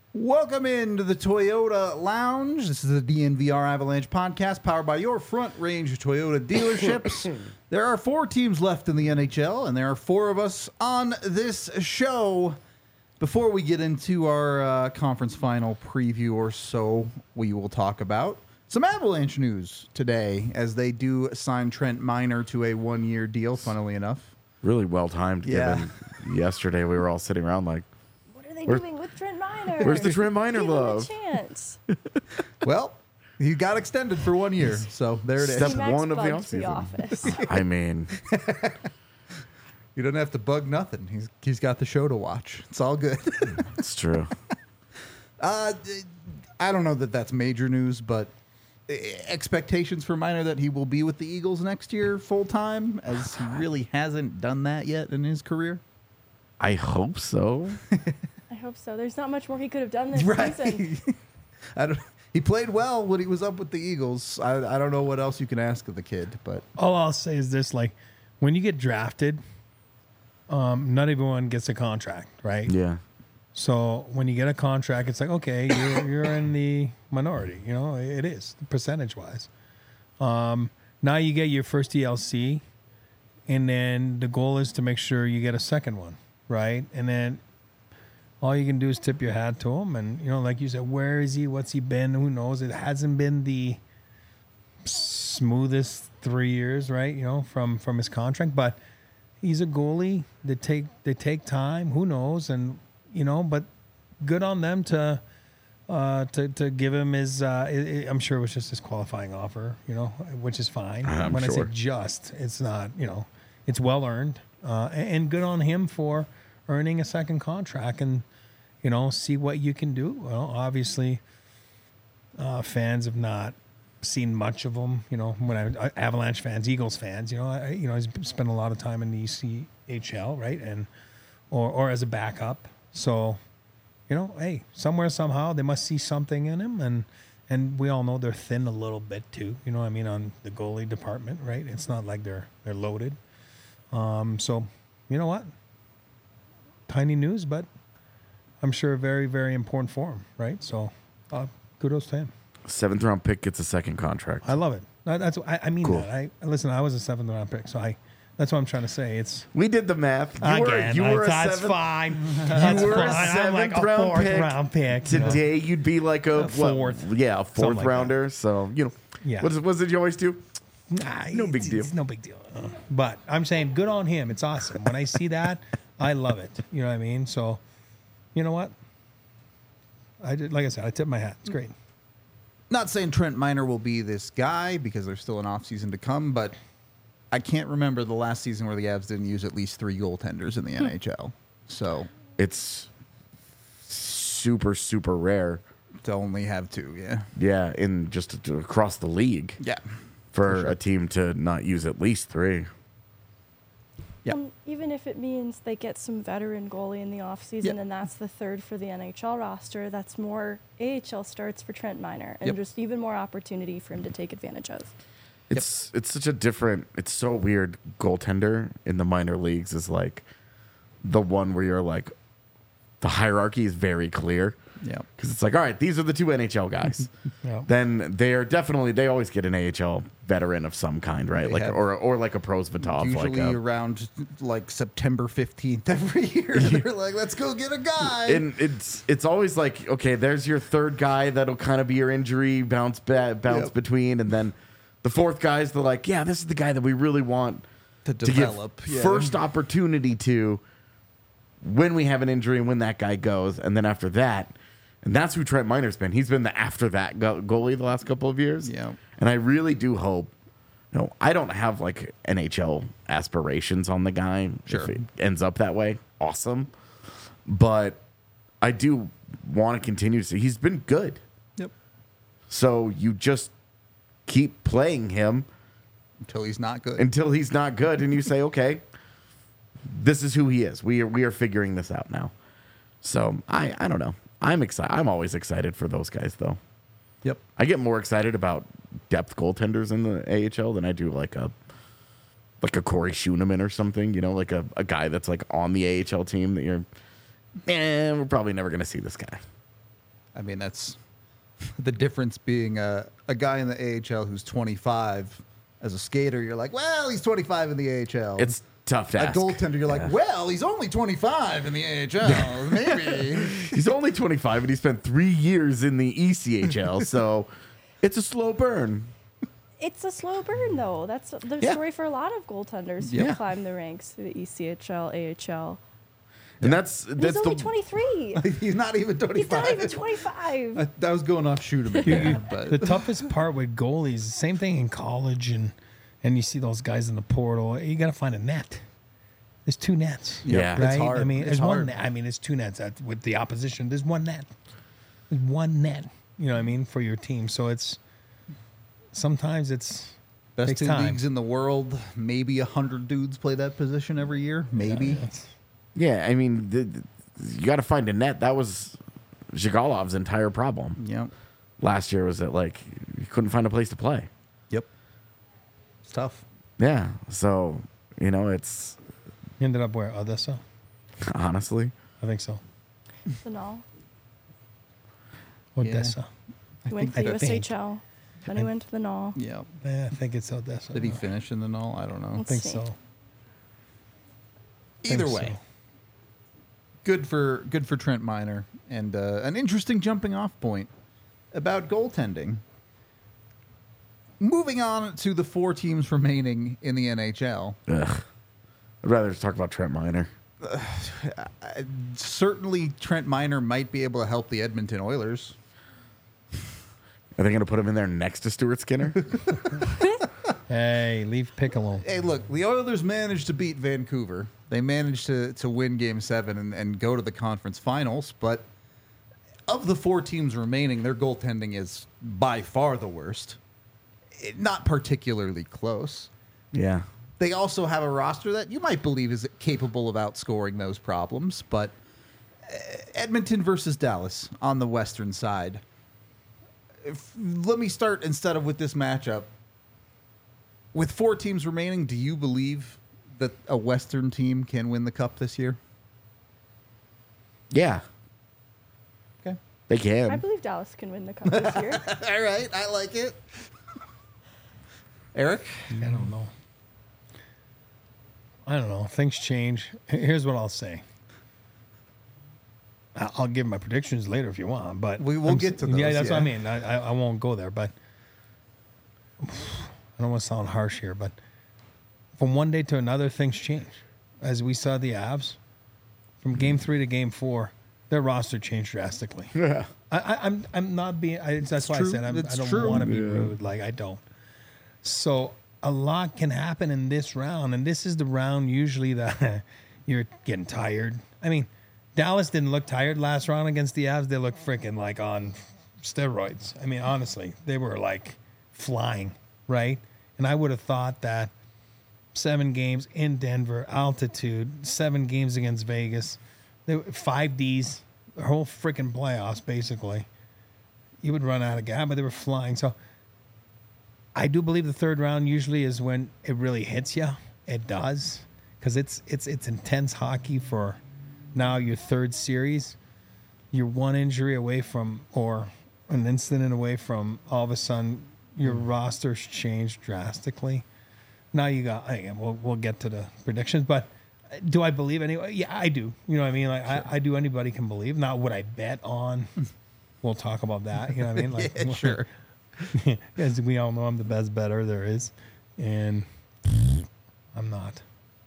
Welcome into the Toyota Lounge. This is the DNVR Avalanche podcast powered by your Front Range Toyota dealerships. There are 4 teams left in the NHL, and there are 4 of us on this show. Before we get into our conference final preview or so, we will talk about some Avalanche news today as they do sign Trent Miner to a 1-year deal, funnily enough. Really well timed, given yesterday we were all sitting around like, what are they doing with Trent Miner? Where's the Trent Miner love? Give him a chance. Well, he got extended for 1 year, so there it is. Step T-Max one of the bugged offseason. office. I mean, You don't have to bug nothing. He's got the show to watch. It's all good. it's true. I don't know that that's major news, but expectations for Miner that he will be with the Eagles next year full time, as he really hasn't done that yet in his career. I hope so. I hope so. There's not much more he could have done this season. He played well when he was up with the Eagles. I don't know what else you can ask of the kid, but All I'll say is this: like, when you get drafted, not everyone gets a contract, right? Yeah. So when you get a contract, it's like, okay, you're in the minority. You know, it is percentage wise. Now you get your first ELC, and then the goal is to make sure you get a second one, right? And then all you can do is tip your hat to him, and you know, like you said, where is he? What's he been? Who knows? It hasn't been the smoothest 3 years, right? You know, from his contract, but he's a goalie. They take time. Who knows? And you know, but good on them to give him his. I'm sure it was just his qualifying offer, you know, which is fine. When sure. I say just, it's not. You know, it's well earned, and good on him for earning a second contract, and you know, see what you can do. Well, obviously, fans have not seen much of him. You know, when Avalanche fans, Eagles fans, you know, he's spent a lot of time in the ECHL, right, and or as a backup. So, you know, hey, somewhere somehow they must see something in him, and we all know they're thin a little bit too. You know what I mean, on the goalie department, right? It's not like they're loaded. So, you know what? Tiny news, but I'm sure very, very important for him, right? So, kudos to him. 7th round pick gets a second contract. I love it. I mean Cool. that. Listen, I was a 7th round pick, so that's what I'm trying to say. It's We did the math. You were a that's 7th fine. That's were a fine. I'm like a 7th round 4th pick. round pick. Today you'd be like a fourth. Yeah, a 4th Something like rounder. So, you know, Yeah. what did you always do? Nah, No big deal. It's no big deal. But I'm saying good on him. It's awesome. When I see that, I love it. You know what I mean? So, you know what? Like I said, I tip my hat. It's great. not saying Trent Miner will be this guy because there's still an offseason to come, but I can't remember the last season where the Avs didn't use at least 3 goaltenders in the NHL. So It's super, super rare. to only have 2, yeah. Yeah, in just across the league Yeah. for sure. a team to not use at least 3. Yeah. Even if it means they get some veteran goalie in the offseason Yeah. and that's the third for the NHL roster, that's more AHL starts for Trent Miner and Yep. just even more opportunity for him to take advantage of. It's such a different, it's so weird. Goaltender in the minor leagues is like the one where you're like, the hierarchy is very clear. Yeah. Because it's like, all right, these are the 2 NHL guys. Yeah. Then they are definitely, they always get an AHL veteran of some kind, right? They Like have- or like a Prosvetov. Usually like around like September 15th every year. They're like, let's go get a guy. and it's always like, okay, there's your third guy that'll kind of be your injury bounce Yep. between, and then the fourth guy's the like, yeah, this is the guy that we really want to to develop. give first opportunity to when we have an injury and when that guy goes, and then after that, and that's who Trent Miner's been. He's been the after that goalie the last couple of years. Yeah. And I really do hope. I don't have like NHL aspirations on the guy. Sure. If it ends up that way, awesome. But I do want to continue to see he's been good. Yep. So you just keep playing him Until he's not good. until he's not good, and you say, okay, this is who he is. We are figuring this out now. So I don't know. I'm excited. I'm always excited for those guys, though. Yep. I get more excited about depth goaltenders in the AHL than I do like a Corey Schooneman or something. Like a guy that's like on the AHL team that you're, we're probably never going to see this guy. I mean, that's the difference being a guy in the AHL who's 25 as a skater. You're like, well, he's 25 in the AHL. It's tough to a ask. goaltender. You're like, well, he's only 25 in the AHL. Maybe. He's only 25 and he spent 3 years in the ECHL, so it's a slow burn. It's a slow burn, though. That's the Yeah. story for a lot of goaltenders who Yeah. climb the ranks through the ECHL, AHL. And that's He's only the 23. He's not even 25. He's not even 25. That was going off shoot him again. The But toughest part with goalies, same thing in college, and you see those guys in the portal. You got to find a net. There's 2 nets. Yeah. it's right. hard. I mean, It's there's hard. one. Net. I mean, there's 2 nets with the opposition. There's 1 net. There's 1 net. You know what I mean, for your team. So it's sometimes it's best takes 2 time. leagues in the world. Maybe 100 dudes play that position every year. Maybe. Yeah, I mean, you got to find a net. That was Zhigalov's entire problem Yep. last year. Was that like he couldn't find a place to play? Yep. It's tough. Yeah, so it's He ended up where Odessa. honestly, I think so. The null. Odessa. He went to I the think. USHL. Then he went to the null. Yeah. Yeah, I think it's Odessa. Did he finish in the null? I don't know. I Let's think see. so. Either Think way, so. good for Trent Miner, and an interesting jumping off point about goaltending. Moving on to the 4 teams remaining in the NHL. ugh. I'd rather just talk about Trent Miner. Certainly, Trent Miner might be able to help the Edmonton Oilers. Are they going to put him in there next to Stuart Skinner? Hey, leave Pick alone. Hey, look, the Oilers managed to beat Vancouver. They managed to win Game 7 and go to the conference finals, but of the 4 teams remaining, their goaltending is by far the worst. Not particularly close. Yeah. They also have a roster that you might believe is capable of outscoring those problems, but Edmonton versus Dallas on the western side. Let me start instead of with this matchup. With 4 teams remaining, do you believe that a western team can win the cup this year? Yeah, Okay. they I can. believe Dallas can win the cup this year. All right, I like it. Eric? I don't know. I don't know. Things change. Here's what I'll say. I'll give my predictions later if you want, but We will get to those, Yeah, that's what I yeah. mean. I won't go there, but I don't want to sound harsh here, but from one day to another, things change. As we saw the Avs, from Game 3 to Game 4, their roster changed drastically. Yeah. I'm not being. That's why true. I said It's I don't true. want to be Yeah. rude. Like I don't. So a lot can happen in this round, and this is the round usually that you're getting tired. I mean, Dallas didn't look tired last round against the Avs. They looked freaking like on steroids. I mean, honestly, they were like flying, right? And I would have thought that 7 games in Denver, altitude, 7 games against Vegas, 5 Ds, the whole freaking playoffs, basically. You would run out of gas, but they were flying. So I do believe the third round usually is when it really hits you. It does, because it's intense hockey for now your third series. You're 1 injury away from, or an incident away from, all of a sudden your roster's changed drastically. Now you got, again, we'll get to the predictions, but do I believe anyway? Yeah, I do. You know what I mean? Like I do. Anybody can believe. Not what I bet on. We'll talk about that. You know what I mean? Like, Yeah, sure. As we all know, I'm the best bettor there is, and I'm not.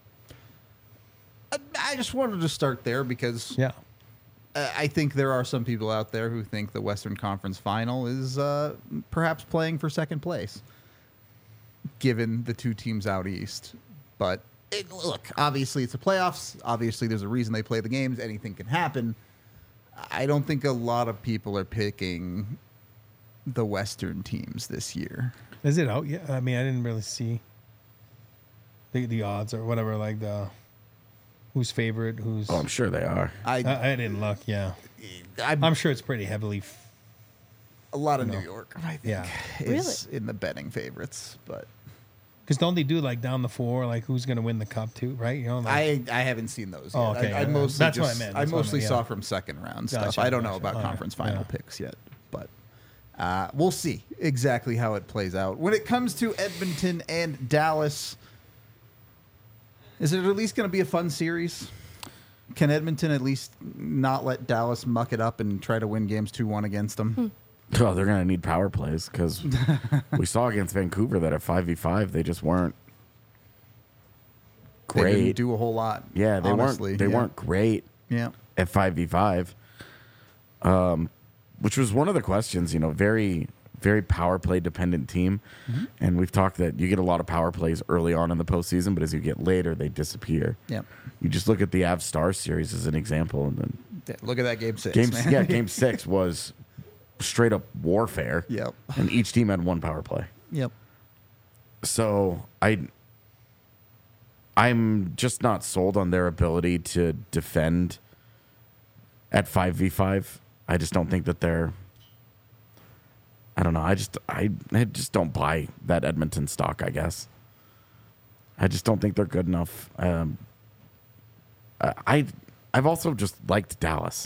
I just wanted to start there because Yeah. I think there are some people out there who think the Western Conference Final is perhaps playing for second place, given the 2 teams out east. But look, obviously it's the playoffs. Obviously there's a reason they play the games. Anything can happen. I don't think a lot of people are picking the Western teams this year. Is it out yet? I mean, I didn't really see the odds or whatever. Like the who's favorite, who's. Oh, I'm sure they are. I didn't look. Yeah, I'm I'm sure it's pretty heavily. a lot of No. New York, I think, Yeah. is in the betting favorites. But Because don't they do like down the floor, like who's going to win the cup too, right? You know, like, I haven't seen those yet. Oh, okay. I mostly That's what I just, meant. I That's what I mostly meant, saw yeah. from second round Gotcha, stuff. I don't know gotcha. about All right, conference final yeah. picks yet, but we'll see exactly how it plays out. When it comes to Edmonton and Dallas, is it at least going to be a fun series? Can Edmonton at least not let Dallas muck it up and try to win games 2-1 against them? Oh, they're going to need power plays because we saw against Vancouver that at 5v5 they just weren't They great. didn't do a whole lot. Yeah, they honestly. weren't. They Yeah. weren't great Yeah. at 5v5, which was one of the questions. You know, very very power play dependent team, and we've talked that you get a lot of power plays early on in the postseason, but as you get later, they disappear. Yeah. You just look at the Avs Stars series as an example, and then Yeah, look at that game 6. man. Game 6 was straight up warfare. Yep. And each team had one power play. Yep. So I'm just not sold on their ability to defend at 5v5. I just don't think that they're. I don't know. I just don't buy that Edmonton stock, I guess. I just don't think they're good enough. I've also just liked Dallas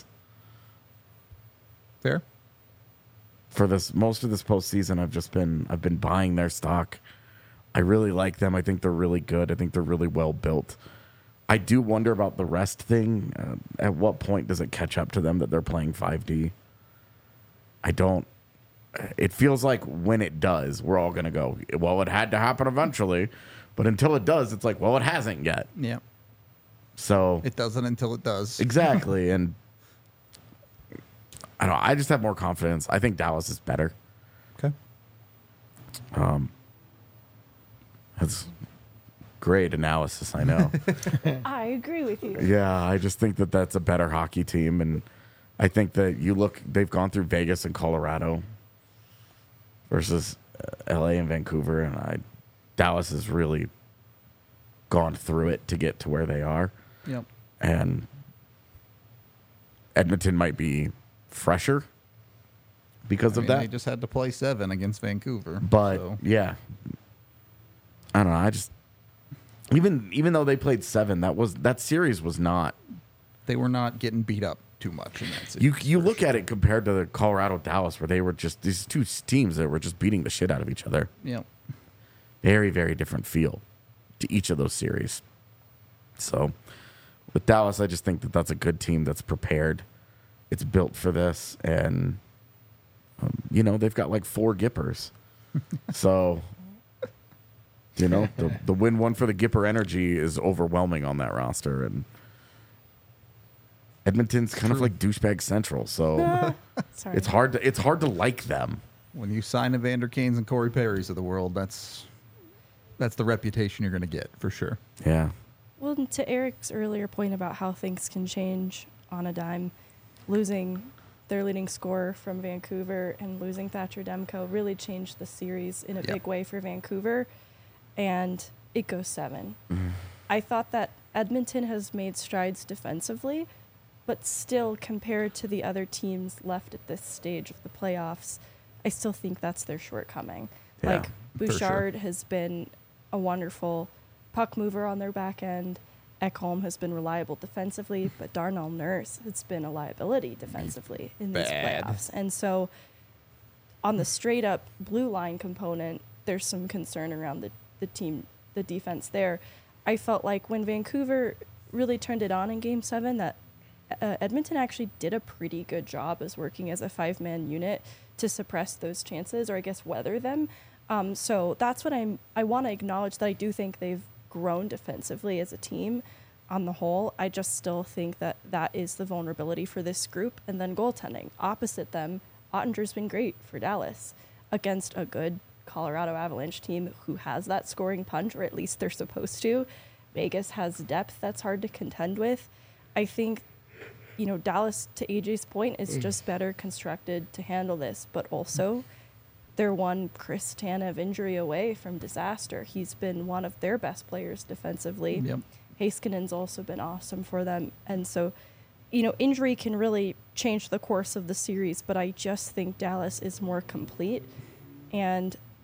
Fair. for this most of this postseason. I've been buying their stock. I really like them. I think they're really good. I think they're really well built. I do wonder about the rest thing. At what point does it catch up to them that they're playing 5D? I don't. It feels like when it does, we're all going to go, well, it had to happen eventually. But until it does, it's like, well, it hasn't yet. Yeah. So It doesn't until it does. exactly. And I don't know. I just have more confidence. I think Dallas is better. Okay. That's great analysis, I know. I agree with you. Yeah, I just think that that's a better hockey team. And I think that they've gone through Vegas and Colorado versus LA and Vancouver. And Dallas has really gone through it to get to where they are. Yep. And Edmonton might be fresher because I of mean, that. They just had to play 7 against Vancouver. But so. yeah, I don't know. I just even though they played 7, that series was not. They were not getting beat up too much in that series. You look at it compared to the Colorado Dallas, where they were just these two teams that were just beating the shit out of each other. Yep. Very very different feel to each of those series. So with Dallas, I just think that that's a good team that's prepared. It's built for this, and they've got like 4 Gippers. So the win one for the Gipper energy is overwhelming on that roster, and Edmonton's kind of like douchebag central. So Sorry. it's hard to like them. When you sign Evander Kanes and Corey Perrys of the world, that's the reputation you're going to get for sure. Yeah. Well, and to Eric's earlier point about how things can change on a dime, losing their leading scorer from Vancouver and losing Thatcher Demko really changed the series in a Yep. big way for Vancouver, and it goes 7. I thought that Edmonton has made strides defensively, but still, compared to the other teams left at this stage of the playoffs, I still think that's their shortcoming. Yeah, Like, for sure. Bouchard has been a wonderful puck mover on their back end. Ekholm has been reliable defensively, but Darnell Nurse has been a liability defensively in these bad. playoffs. And so on the straight up blue line component, there's some concern around the defense there. I felt like when Vancouver really turned it on in Game 7, that Edmonton actually did a pretty good job as working as a 5-man unit to suppress those chances, or I guess weather them. So that's what I want to acknowledge, that I do think they've grown defensively as a team on the whole. I just still think that is the vulnerability for this group. And then goaltending. Opposite them, Ottinger's been great for Dallas against a good Colorado Avalanche team who has that scoring punch, or at least they're supposed to. Vegas has depth that's hard to contend with. I think, Dallas, to AJ's point, is just better constructed to handle this, but also they're one Chris Tanev injury away from disaster. He's been one of their best players defensively. Yep. Haskinen's also been awesome for them. And so, injury can really change the course of the series, but I just think Dallas is more complete. And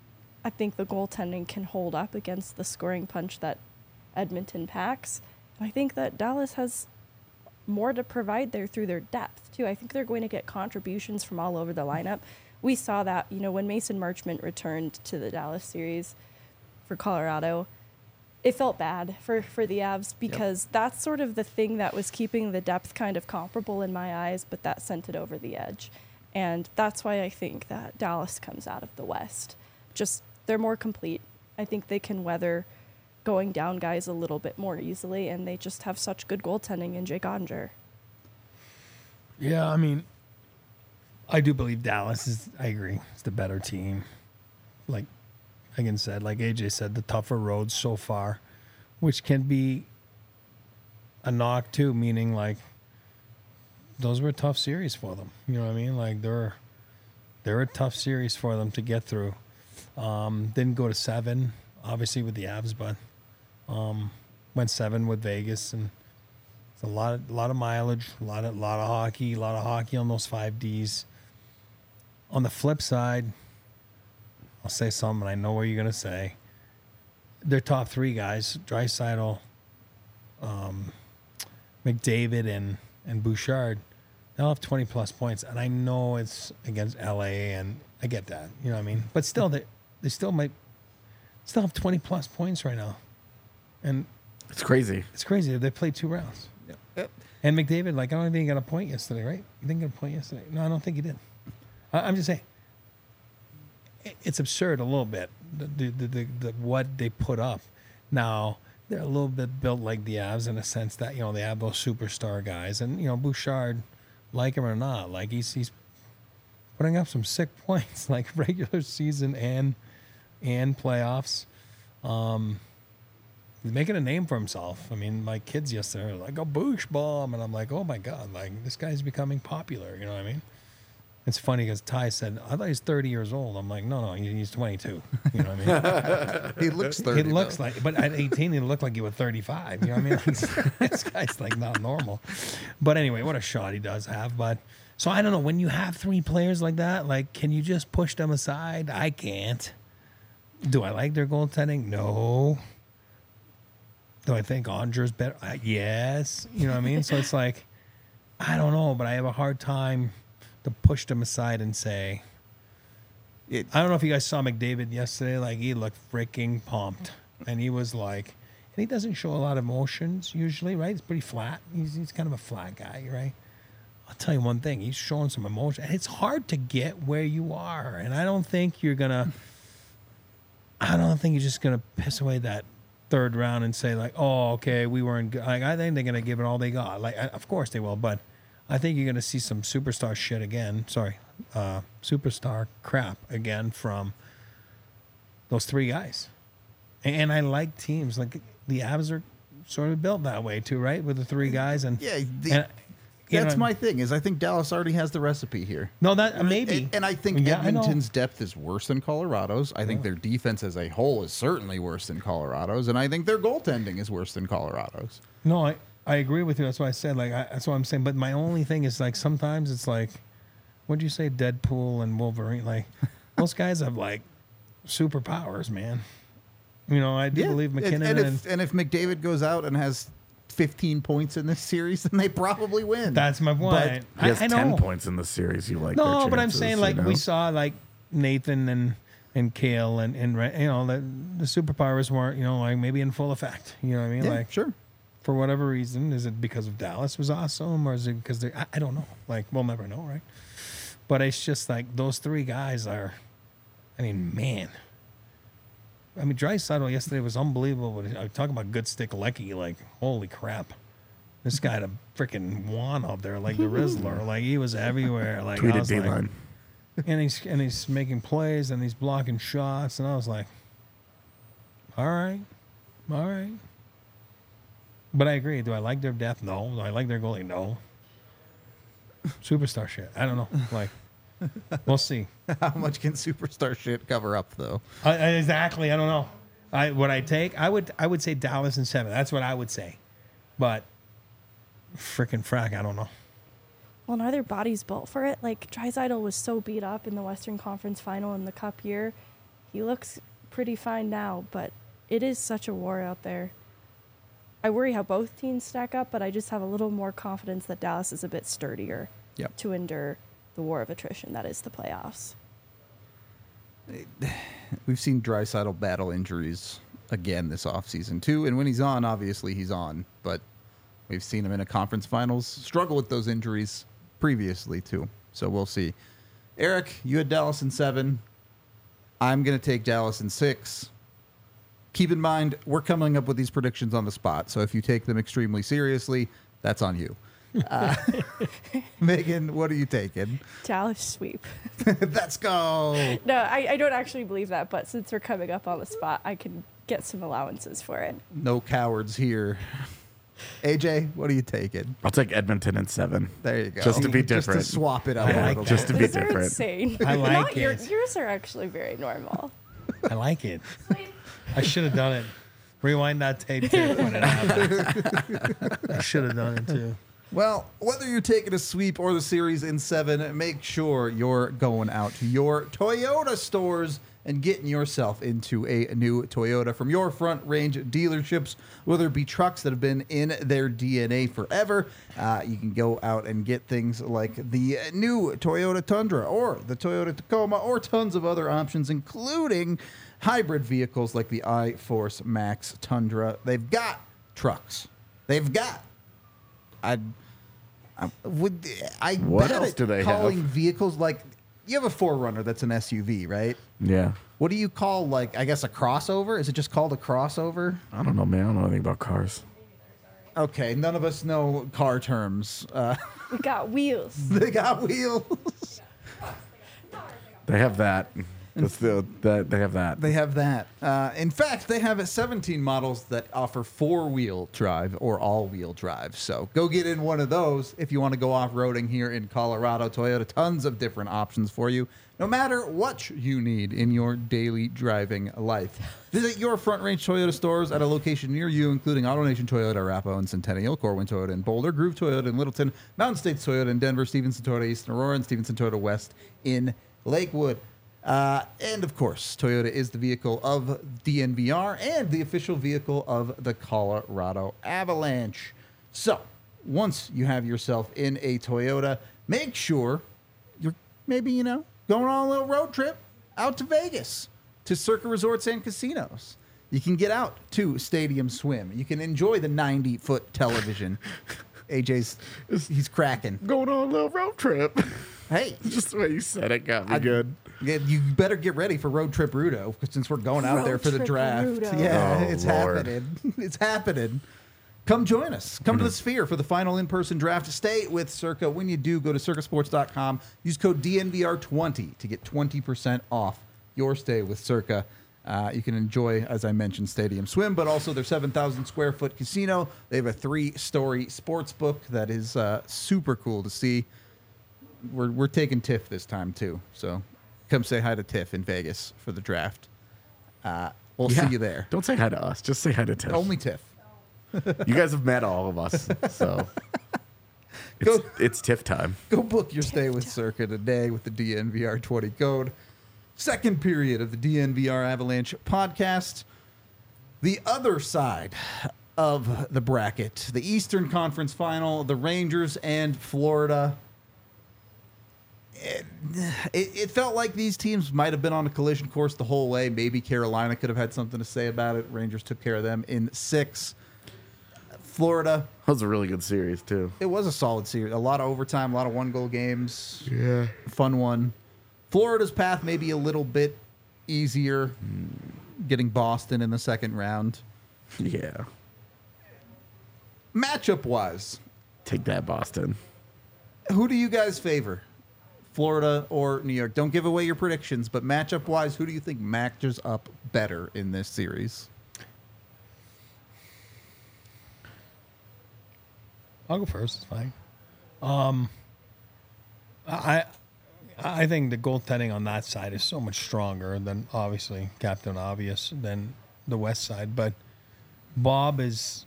I think the goaltending can hold up against the scoring punch that Edmonton packs. And I think that Dallas has more to provide there through their depth, too. I think they're going to get contributions from all over the lineup. We saw that, when Mason Marchment returned to the Dallas series for Colorado, it felt bad for the Avs because that's sort of the thing that was keeping the depth kind of comparable in my eyes, but that sent it over the edge. And that's why I think that Dallas comes out of the West. Just, they're more complete. I think they can weather going down guys a little bit more easily, and they just have such good goaltending in Jake Ottinger. Yeah, I mean, I do believe Dallas is, I agree, it's the better team. Like Megan said, like AJ said, the tougher roads so far, which can be a knock too, meaning like those were a tough series for them. You know what I mean? Like they're a tough series for them to get through. Didn't go to 7, obviously with the Avs, but went 7 with Vegas, and it's a lot of mileage, a lot of hockey on those 5Ds. On the flip side, I'll say something, I know what you're gonna say. Their top 3 guys, Draisaitl, McDavid, and Bouchard, they'll have 20+ points, and I know it's against LA, and I get that, you know what I mean. But still, they still might have 20+ points right now, and It's crazy. it's crazy. They played 2 rounds. Yep. And McDavid, like, I don't think he got a point yesterday, right? You didn't get a point yesterday? No, I don't think he did. I'm just saying, it's absurd a little bit, the what they put up. Now, they're a little bit built like the Avs in a sense that, they have those superstar guys. And, Bouchard, like him or not, like, he's putting up some sick points, like regular season and playoffs. He's making a name for himself. I mean, my kids yesterday were like, "Oh, Boosh bomb," and I'm like, "Oh my god, like this guy's becoming popular." You know what I mean? It's funny because Ty said, "I thought he's 30 years old." I'm like, "No, he's 22." You know what I mean? He looks 30. It looks though. like, but at 18, he looked like he was 35. You know what I mean? Like, this guy's like not normal. But anyway, what a shot he does have. But so I don't know, when you have 3 players like that, like, can you just push them aside? I can't. Do I like their goaltending? No. Do I think Ottinger's better? Yes. You know what I mean? So it's like, I don't know, but I have a hard time to push them aside and say, I don't know if you guys saw McDavid yesterday. Like, he looked freaking pumped. And he was like, and he doesn't show a lot of emotions usually, right? He's pretty flat. He's kind of a flat guy, right? I'll tell you one thing. He's showing some emotion. And it's hard to get where you are. And I don't think you're just going to piss away that 3rd round and say, like, oh, okay, we weren't good. Like, I think they're going to give it all they got. Like, of course they will, but I think you're going to see some superstar shit again. Sorry, superstar crap again from those 3 guys. And I like teams. Like, the Avs are sort of built that way too, right? With the 3 guys. And Yeah, and, that's my thing. Is I think Dallas already has the recipe here. No, that maybe. And I think Yeah, I know. Edmonton's depth is worse than Colorado's. I think their defense as a whole is certainly worse than Colorado's, and I think their goaltending is worse than Colorado's. No, I agree with you. That's why I said, like, that's what I'm saying. But my only thing is, like, sometimes it's like, what'd you say, Deadpool and Wolverine? Like, those guys have, like, superpowers, man. I do believe McKinnon. And if McDavid goes out and has 15 points in this series, then they probably win. That's my point. He has I 10 know. points in the series. You like No, their but I'm chances, saying, like, you know? we saw, like, Nathan and Kale and the superpowers weren't, like, maybe in full effect. You know what I mean? Yeah, Like, sure. for whatever reason, is it because of Dallas was awesome, or is it because I don't know. Like, we'll never know, right? But it's just like those 3 guys are, I mean, man. I mean, Draisaitl yesterday was unbelievable. I talk about good stick Lecky, like, holy crap. This guy had a freaking wand up there, like the Rizzler. Like, he was everywhere. Like, I Tweeted was like, D-line. and he's making plays and he's blocking shots, and I was like, all right. But I agree. Do I like their depth? No. Do I like their goalie? No. Superstar shit. I don't know. Like, we'll see. How much can superstar shit cover up, though? Exactly. I don't know. I would say Dallas in 7. That's what I would say. But frickin' frack, I don't know. Well, and are their bodies built for it? Like, Draisaitl was so beat up in the Western Conference Final in the Cup year. He looks pretty fine now, but it is such a war out there. I worry how both teams stack up, but I just have a little more confidence that Dallas is a bit sturdier Yep. to endure the war of attrition that is the playoffs. We've seen Draisaitl battle injuries again this offseason, too. And when he's on, obviously he's on. But we've seen him in a conference finals struggle with those injuries previously, too. So we'll see. Eric, you had Dallas in 7. I'm going to take Dallas in 6. Keep in mind, we're coming up with these predictions on the spot. So if you take them extremely seriously, that's on you. Megan, what are you taking? Dallas sweep. Let's go. No, I don't actually believe that, but since we're coming up on the spot, I can get some allowances for it. No cowards here. AJ, what are you taking? I'll take Edmonton in 7. There you go. Just to be different. Just to swap it up I a like little that. Just to be These are different. insane. I like Not it. Yours are actually very normal. I like it. I should have done it. Rewind that tape too when it happened. I should have done it too. Well, whether you're taking a sweep or the series in 7, make sure you're going out to your Toyota stores and getting yourself into a new Toyota from your Front Range dealerships, whether it be trucks that have been in their DNA forever. You can go out and get things like the new Toyota Tundra or the Toyota Tacoma or tons of other options, including hybrid vehicles like the iForce Max Tundra. They've got trucks. They've got... What What bet else at do they calling have? vehicles like you have a 4Runner that's an SUV, right? Yeah. What do you call, like, I guess a crossover? Is it just called a crossover? I don't know, man. I don't know anything about cars. Okay, none of us know car terms. We got wheels. They got wheels. They have that. That's they have that. They have that. In fact, they have 17 models that offer 4-wheel drive or all-wheel drive. So go get in one of those if you want to go off-roading here in Colorado. Toyota, tons of different options for you, no matter what you need in your daily driving life. Visit your Front Range Toyota stores at a location near you, including AutoNation Toyota, Arapahoe and Centennial, Corwin Toyota in Boulder, Groove Toyota in Littleton, Mountain States Toyota in Denver, Stevenson Toyota East in Aurora, and Stevenson Toyota West in Lakewood. And of course, Toyota is the vehicle of DNVR and the official vehicle of the Colorado Avalanche. So, once you have yourself in a Toyota, make sure you're maybe, going on a little road trip out to Vegas to Circa Resorts and Casinos. You can get out to Stadium Swim. You can enjoy the 90-foot television. He's cracking. Going on a little road trip. Hey, Just the way you said it got me good. yeah, you better get ready for Road Trip Rudo since we're going out Road there for the Trip draft. Rudo. Yeah, Oh, it's Lord. happening. It's happening. Come join us. Come to the Sphere for the final in-person draft. Stay with Circa. When you do, go to circasports.com. Use code DNVR20 to get 20% off your stay with Circa. You can enjoy, as I mentioned, Stadium Swim, but also their 7,000 square foot casino. They have a 3-story sports book that is super cool to see. We're taking Tiff this time too, so come say hi to Tiff in Vegas for the draft. We'll see you there. Don't say hi to us. Just say hi to Tiff. Only Tiff. You guys have met all of us, so Go- it's Tiff time. Go book your stay with Circa today with the DNVR 20 code. Second period of the DNVR Avalanche podcast. The other side of the bracket, the Eastern Conference Final, the Rangers and Florida. It felt like these teams might have been on a collision course the whole way. Maybe Carolina could have had something to say about it. Rangers took care of them in 6. Florida, That was a really good series too. it was a solid series. A lot of overtime, a lot of one-goal games. Yeah. Fun one. Florida's path may be a little bit easier, getting Boston in the second round. Yeah. Matchup-wise, Take that, Boston. who do you guys favor? Florida or New York? Don't give away your predictions, but matchup-wise, who do you think matches up better in this series? I'll go first. It's fine. I think the goaltending on that side is so much stronger than obviously Captain Obvious than the West side. But Bob is.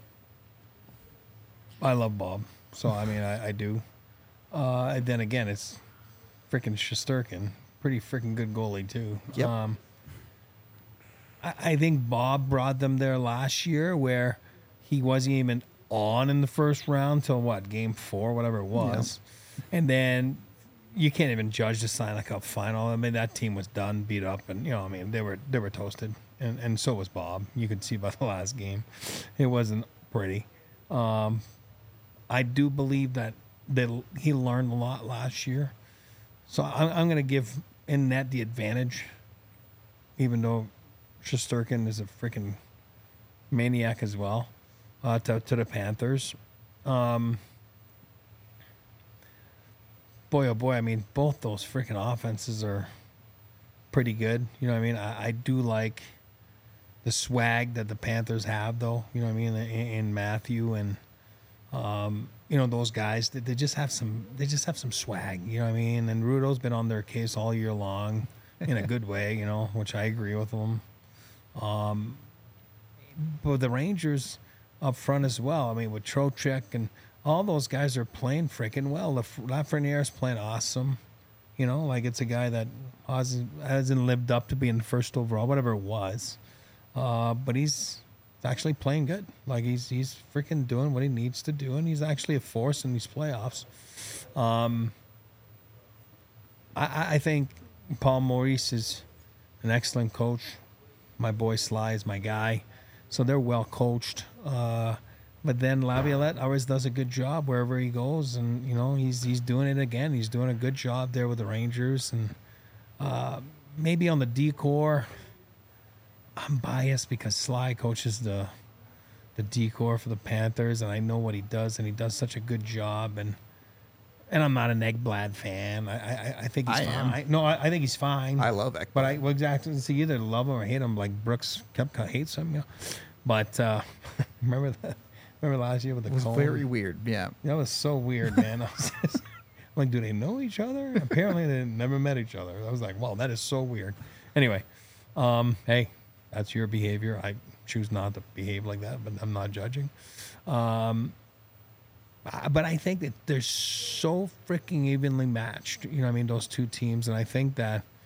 I love Bob, so I mean I do. And then again, it's freaking Shesterkin, pretty freaking good goalie too. Yep. I think Bob brought them there last year where he wasn't even on in the first round till what, game 4, whatever it was. And then you can't even judge the Stanley Cup final. I mean, that team was done, beat up, and I mean, they were toasted. And so was Bob. You could see by the last game. It wasn't pretty. I do believe that he learned a lot last year. So I'm going to give in net the advantage, even though Shesterkin is a freaking maniac as well, to the Panthers. Boy, oh boy, I mean, both those freaking offenses are pretty good. You know what I mean? I do like the swag that the Panthers have, though. You know what I mean? In Matthew and those guys, they just have some swag. You know what I mean? And Rudo's been on their case all year long in a good way. Which I agree with them. But the Rangers up front as well. I mean, with Trocheck and all those guys are playing freaking well. Lafreniere's playing awesome. Like it's a guy that hasn't lived up to being first overall, whatever it was. But he's actually playing good. Like he's freaking doing what he needs to do, and he's actually a force in these playoffs. I think Paul Maurice is an excellent coach. My boy Sly is my guy. So they're well coached. But then Laviolette always does a good job wherever he goes, and he's doing it again. He's doing a good job there with the Rangers, and maybe on the D-corps, I'm biased because Sly coaches the D-corps for the Panthers, and I know what he does, and he does such a good job. And I'm not an Ekblad fan. I think he's fine. No, I think he's fine. I love Ekblad. But exactly, so you either love him or hate him. Like Brooks Koepka hates him. But remember last year with the It was cone? very weird. Yeah. That was so weird, man. I was just, like, do they know each other? Apparently, they never met each other. I was like, wow, that is so weird. Anyway, hey, that's your behavior. I choose not to behave like that, but I'm not judging. But I think that they're so freaking evenly matched. You know what I mean? Those two teams. And I think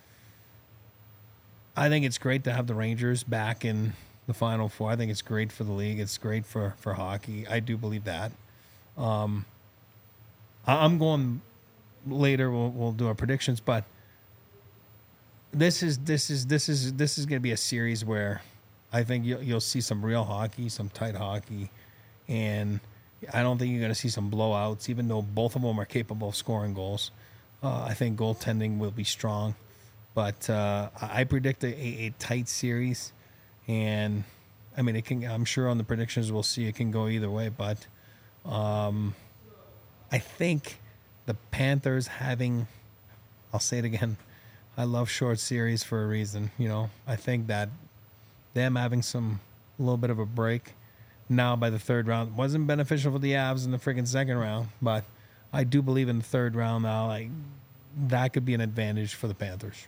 it's great to have the Rangers back in the Final Four. I think it's great for the league. It's great for hockey. I do believe that. I'm going later. We'll do our predictions, but this is going to be a series where I think you'll see some real hockey, some tight hockey, and I don't think you're going to see some blowouts, even though both of them are capable of scoring goals. I think goaltending will be strong, but I predict a tight series. And I mean, I'm sure on the predictions we'll see it can go either way, but I think the Panthers I'll say it again, I love short series for a reason. I think that them having a little bit of a break now by the third round wasn't beneficial for the Avs in the freaking second round, but I do believe in the third round now, that could be an advantage for the Panthers.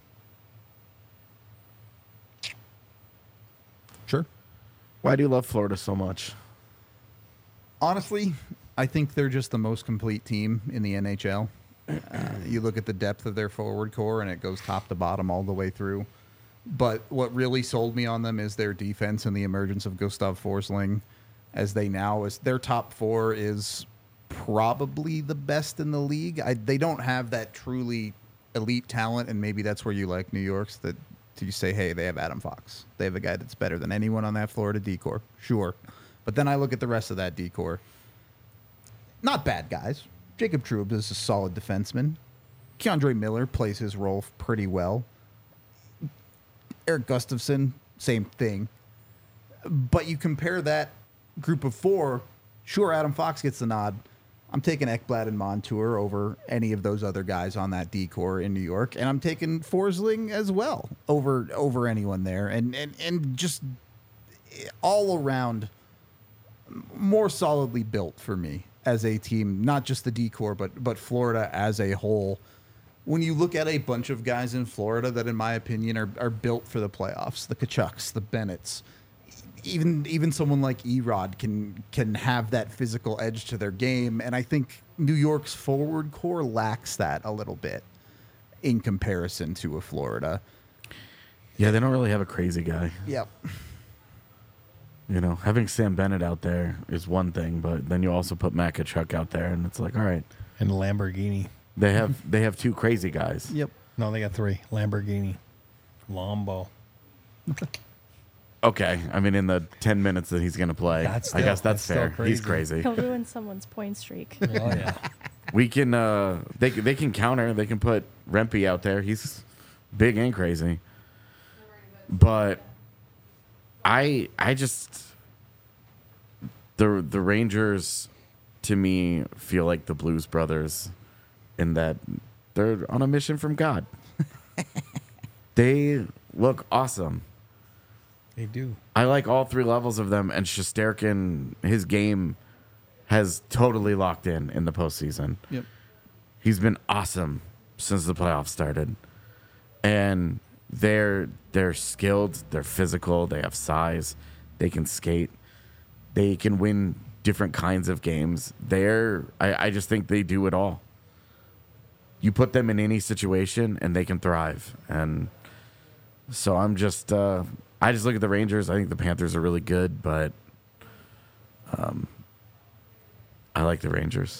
Sure. Why do you love Florida so much? Honestly, I think they're just the most complete team in the NHL. You look at the depth of their forward core, and it goes top to bottom all the way through. But what really sold me on them is their defense and the emergence of Gustav Forsling, as their top four is probably the best in the league. They don't have that truly elite talent, and maybe that's where you like New York's, that you say, hey, they have Adam Fox. They have a guy that's better than anyone on that Florida D-corps. Sure. But then I look at the rest of that D-corps. Not bad guys. Jacob Trouba is a solid defenseman. Keandre Miller plays his role pretty well. Eric Gustafsson, same thing. But you compare that group of four, sure, Adam Fox gets the nod. I'm taking Ekblad and Montour over any of those other guys on that D-corps in New York, and I'm taking Forsling as well over anyone there, and just all around more solidly built for me as a team, not just the D-corps, but Florida as a whole. When you look at a bunch of guys in Florida that, in my opinion, are built for the playoffs, the Tkachuks, the Bennetts, even someone like Erod can have that physical edge to their game, and I think New York's forward core lacks that a little bit in comparison to a Florida. Yeah, they don't really have a crazy guy. Yep. You know, having Sam Bennett out there is one thing, but then you also put Matt Kachuk out there, and it's like, all right, And Lamborghini. they have two crazy guys. Yep. No, they got 3. Lamborghini. Lambo. Okay, I mean, in the 10 minutes that he's going to play, That's I guess still- that's that's still fair. He's crazy. crazy. He'll ruin someone's point streak. Oh, yeah. We can, they can counter. They can put Rempe out there. He's big and crazy. But I just the Rangers to me feel like the Blues Brothers in that they're on a mission from God. They look awesome. They do. I like all 3 levels of them, and Shesterkin, his game has totally locked in the postseason. Yep. He's been awesome since the playoffs started. And they're skilled, they're physical, they have size, they can skate, they can win different kinds of games. I just think they do it all. You put them in any situation and they can thrive. And so I just look at the Rangers. I think the Panthers are really good, but I like the Rangers.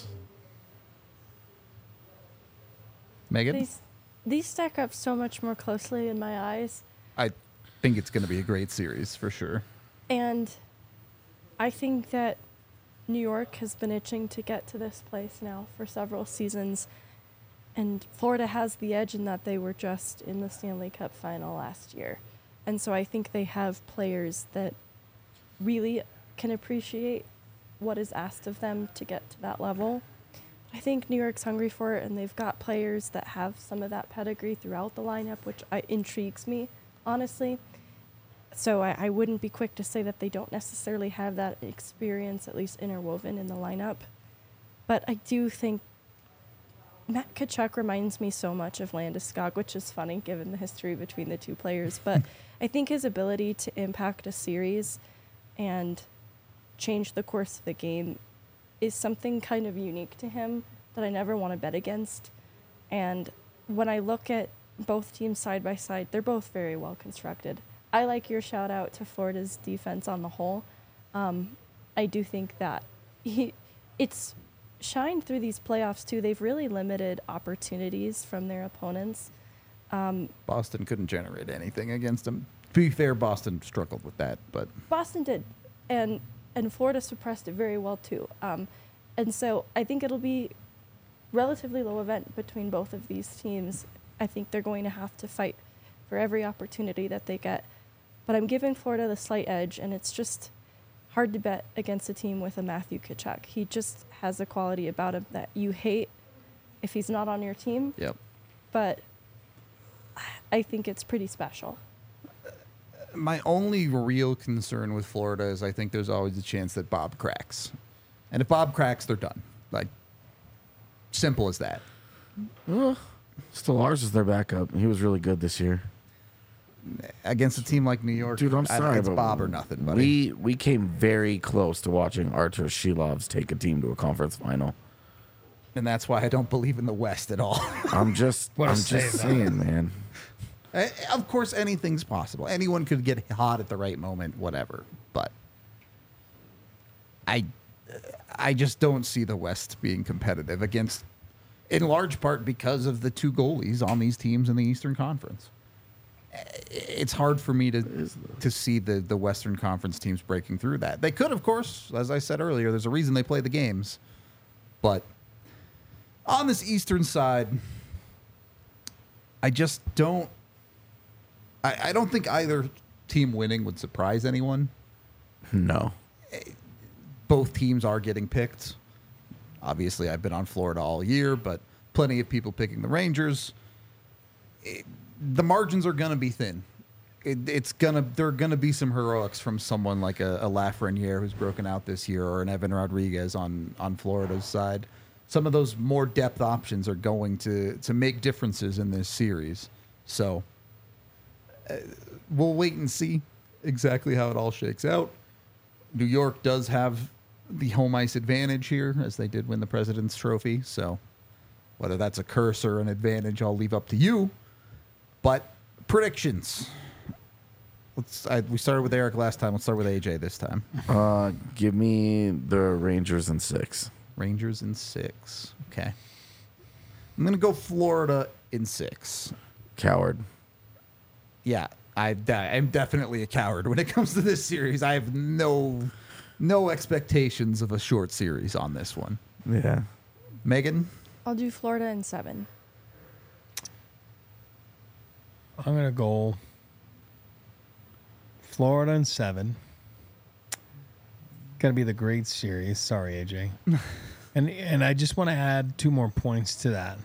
Megan? These stack up so much more closely in my eyes. I think it's going to be a great series for sure. And I think that New York has been itching to get to this place now for several seasons. And Florida has the edge in that they were just in the Stanley Cup final last year. And so I think they have players that really can appreciate what is asked of them to get to that level. I think New York's hungry for it, and they've got players that have some of that pedigree throughout the lineup, which intrigues me, honestly. So I wouldn't be quick to say that they don't necessarily have that experience, at least interwoven in the lineup. But I do think Matt Kachuk reminds me so much of Landeskog, which is funny given the history between the two players. But I think his ability to impact a series and change the course of the game is something kind of unique to him that I never want to bet against. And when I look at both teams side by side, they're both very well constructed. I like your shout out to Florida's defense on the whole. I do think that it's shined through these playoffs too. They've really limited opportunities from their opponents. Boston couldn't generate anything against them. To be fair, Boston struggled with that, but Boston did, and Florida suppressed it very well too. And so I think it'll be relatively low event between both of these teams. I think they're going to have to fight for every opportunity that they get. But I'm giving Florida the slight edge, and it's just hard to bet against a team with a Matthew Tkachuk. He just has a quality about him that you hate if he's not on your team. yep. But I think it's pretty special. My only real concern with Florida is I think there's always a chance that Bob cracks. And if Bob cracks, they're done. Like, simple as that. Stolarz is their backup. He was really good this year. Against a team like New York, Dude, I'm sorry, it's but Bob or nothing, buddy. We came very close to watching Artur Shilovs take a team to a conference final. And that's why I don't believe in the West at all. I'm just What a I'm save, just though. saying, man. Of course, anything's possible. Anyone could get hot at the right moment, whatever. But I just don't see the West being competitive against, in large part because of the two goalies on these teams in the Eastern Conference. It's hard for me to see the Western Conference teams breaking through that. They could, of course, as I said earlier, there's a reason they play the games. But on this Eastern side, I just don't. I don't think either team winning would surprise anyone. No. Both teams are getting picked. Obviously, I've been on Florida all year, but plenty of people picking the Rangers. The margins are going to be thin. There are going to be some heroics from someone like a Lafreniere who's broken out this year, or an Evan Rodriguez on Florida's side. Some of those more depth options are going to make differences in this series. So we'll wait and see exactly how it all shakes out. New York does have the home ice advantage here, as they did win the President's Trophy. So whether that's a curse or an advantage, I'll leave up to you. But predictions. We started with Eric last time. Let's start with AJ this time. Give me the Rangers in 6. Rangers in 6. Okay. I'm going to go Florida in 6. Coward. Yeah, I'm definitely a coward when it comes to this series. I have no expectations of a short series on this one. Yeah. Megan? I'll do Florida in 7. I'm going to go Florida in 7. Got to be the great series. Sorry, AJ. and I just want to add 2 more points to that.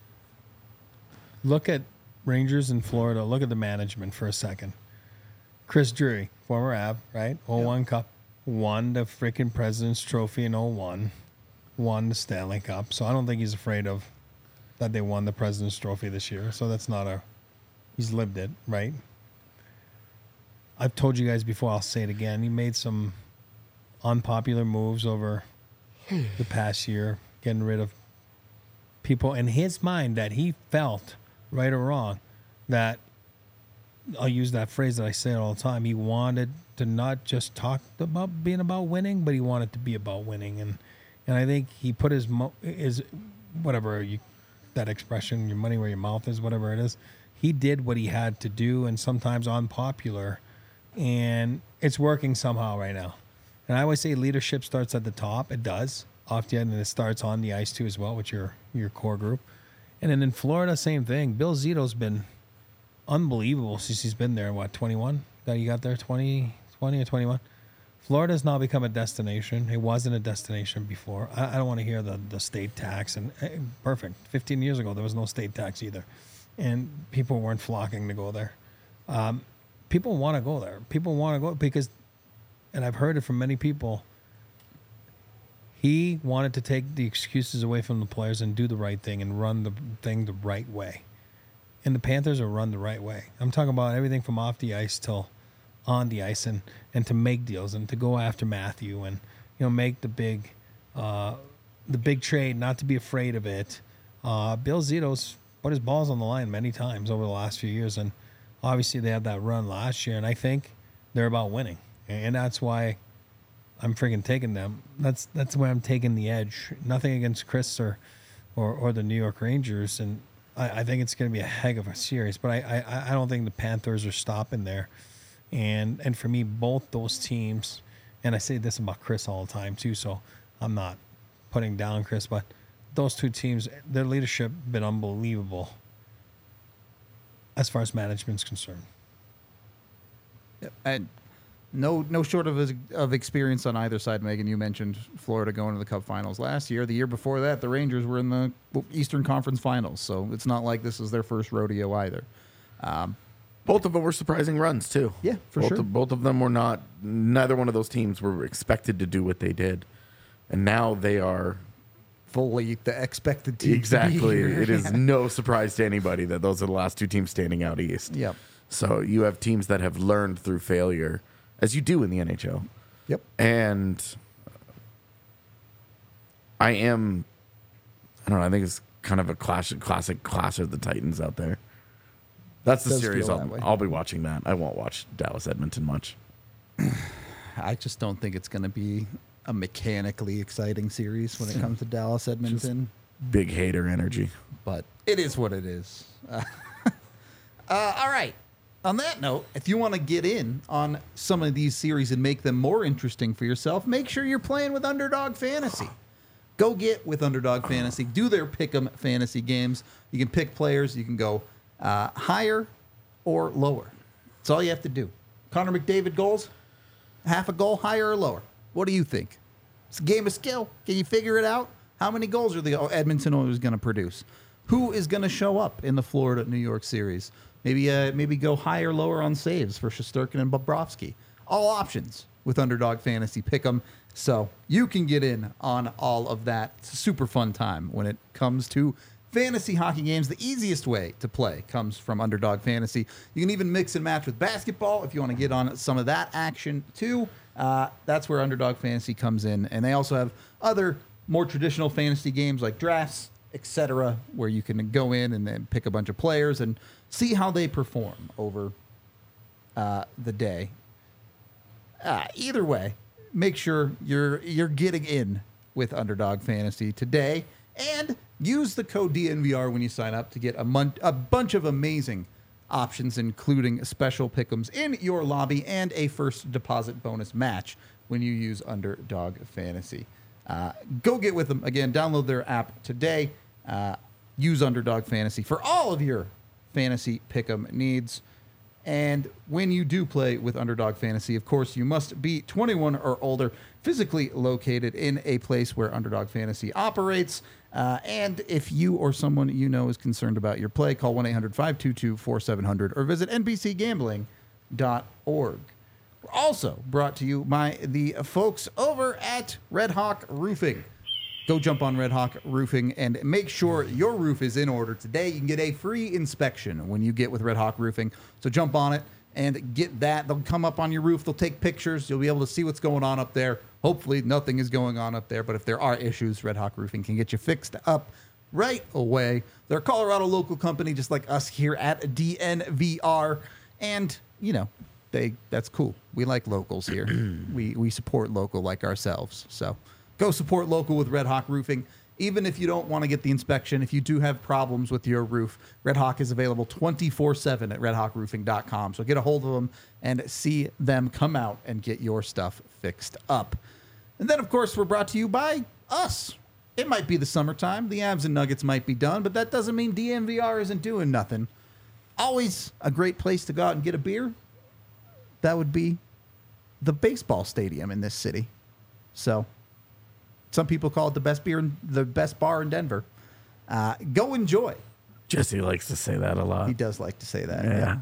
Look at Rangers in Florida. Look at the management for a second. Chris Drury, former Av, right? 01 Cup. Won the freaking President's Trophy in 01. Won the Stanley Cup. So I don't think he's afraid of that they won the President's Trophy this year. So that's not a... He's lived it, right? I've told you guys before, I'll say it again. He made some unpopular moves over the past year, getting rid of people in his mind that he felt, right or wrong, that I'll use that phrase that I say all the time. He wanted to not just talk about being about winning, but he wanted to be about winning. And I think he put his whatever that expression, your money where your mouth is, whatever it is. He did what he had to do, and sometimes unpopular, and it's working somehow right now. And I always say leadership starts at the top. It does, often, and it starts on the ice too as well with your core group. And then in Florida, same thing. Bill Zito's been unbelievable since he's been there. What, 21? That he got there 20 or 21? Florida's now become a destination. It wasn't a destination before. I don't want to hear the state tax. And perfect. 15 years ago, there was no state tax either. And people weren't flocking to go there. People want to go there. People want to go because, and I've heard it from many people, he wanted to take the excuses away from the players and do the right thing and run the thing the right way. And the Panthers are run the right way. I'm talking about everything from off the ice till on the ice, and to make deals and to go after Matthew and make the big trade, not to be afraid of it. Bill Zito's put his balls on the line many times over the last few years, and obviously they had that run last year, and I think they're about winning, and that's why I'm freaking taking them. That's why I'm taking the edge. Nothing against Chris or the New York Rangers, and I think it's going to be a heck of a series, but I don't think the Panthers are stopping there, and for me, both those teams, and I say this about Chris all the time too, so I'm not putting down Chris, but those two teams, their leadership been unbelievable as far as management's concerned. And no short of experience on either side. Megan, you mentioned Florida going to the Cup Finals last year. The year before that, the Rangers were in the Eastern Conference Finals, so it's not like this is their first rodeo either. Both of them were surprising runs too. Yeah, for sure. Both of them were not. Neither one of those teams were expected to do what they did, and now they are fully the expected team. Exactly. It is no surprise to anybody that those are the last two teams standing out east. Yep. So you have teams that have learned through failure, as you do in the NHL. Yep. And I don't know, I think it's kind of a classic clash of the Titans out there. That's the series I'll be watching that. I won't watch Dallas Edmonton much. I just don't think it's going to be a mechanically exciting series when it comes to Dallas Edmonton. Just big hater energy. But it is what it is. All right. On that note, if you want to get in on some of these series and make them more interesting for yourself, make sure you're playing with Underdog Fantasy. Go get with Underdog Fantasy. Do their pick'em fantasy games. You can pick players. You can go higher or lower. That's all you have to do. Connor McDavid goals, half a goal, higher or lower. What do you think? It's a game of skill. Can you figure it out? How many goals are the Edmonton Oilers going to produce? Who is going to show up in the Florida-New York series? Maybe go higher, lower on saves for Shesterkin and Bobrovsky. All options with Underdog Fantasy Pick'em. So you can get in on all of that. It's a super fun time when it comes to fantasy hockey games. The easiest way to play comes from Underdog Fantasy. You can even mix and match with basketball if you want to get on some of that action too. That's where Underdog Fantasy comes in. And they also have other more traditional fantasy games like drafts, etc., where you can go in and then pick a bunch of players and see how they perform over the day. Either way, make sure you're getting in with Underdog Fantasy today, and use the code DNVR when you sign up to get a bunch of amazing options, including special pick'ems in your lobby and a first deposit bonus match when you use Underdog Fantasy. Go get with them. Again, download their app today. Use Underdog Fantasy for all of your fantasy pick'em needs. And when you do play with Underdog Fantasy, of course, you must be 21 or older, physically located in a place where Underdog Fantasy operates. And if you or someone you know is concerned about your play, call 1-800-522-4700 or visit nbcgambling.org. We're also brought to you by the folks over at Red Hawk Roofing. Go jump on Red Hawk Roofing and make sure your roof is in order today. You can get a free inspection when you get with Red Hawk Roofing. So jump on it and get that. They'll come up on your roof. They'll take pictures. You'll be able to see what's going on up there. Hopefully nothing is going on up there, but if there are issues, Red Hawk Roofing can get you fixed up right away. They're a Colorado local company just like us here at DNVR. And, you know, that's cool. We like locals here. we support local like ourselves. So go support local with Red Hawk Roofing. Even if you don't want to get the inspection, if you do have problems with your roof, Red Hawk is available 24/7 at redhawkroofing.com. So get a hold of them and see them come out and get your stuff fixed up. And then, of course, we're brought to you by us. It might be the summertime. The Avs and Nuggets might be done, but that doesn't mean DNVR isn't doing nothing. Always a great place to go out and get a beer. That would be the baseball stadium in this city. So some people call it the best bar in Denver. Go enjoy. Jesse likes to say that a lot. He does like to say that. Yeah.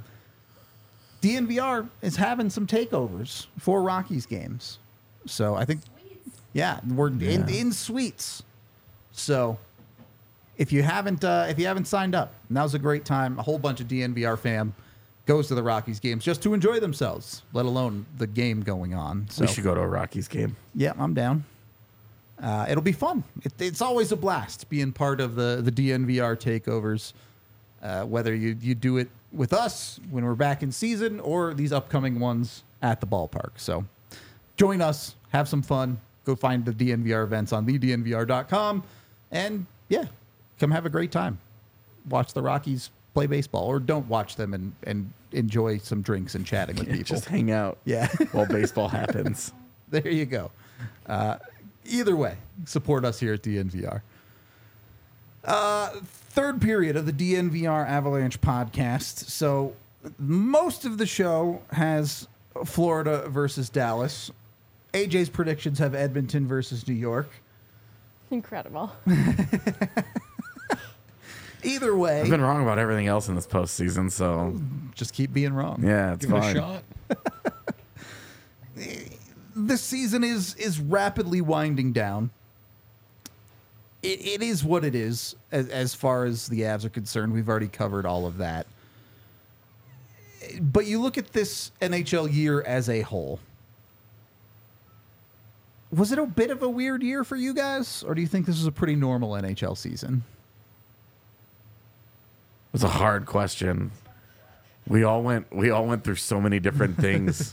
DNVR is having some takeovers for Rockies games. So I think, we're in suites. So if you haven't signed up, now's a great time. A whole bunch of DNVR fam goes to the Rockies games just to enjoy themselves, let alone the game going on. So We should go to a Rockies game. Yeah, I'm down. It'll be fun. It's always a blast being part of the DNVR takeovers, whether you do it with us when we're back in season or these upcoming ones at the ballpark. So join us, have some fun, go find the DNVR events on thednvr.com, and come have a great time. Watch the Rockies play baseball, or don't watch them and enjoy some drinks and chatting with people. Just hang out while baseball happens. There you go. Either way, support us here at DNVR. Third period of the DNVR Avalanche podcast. So most of the show has Florida versus Dallas. AJ's predictions have Edmonton versus New York. Incredible. Either way, I've been wrong about everything else in this postseason, so just keep being wrong. yeah, it's Give it a fine. shot. This season is rapidly winding down. It is what it is as far as the Avs are concerned. We've already covered all of that. But you look at this NHL year as a whole. Was it a bit of a weird year for you guys, or do you think this was a pretty normal NHL season? It's a hard question. We all went through so many different things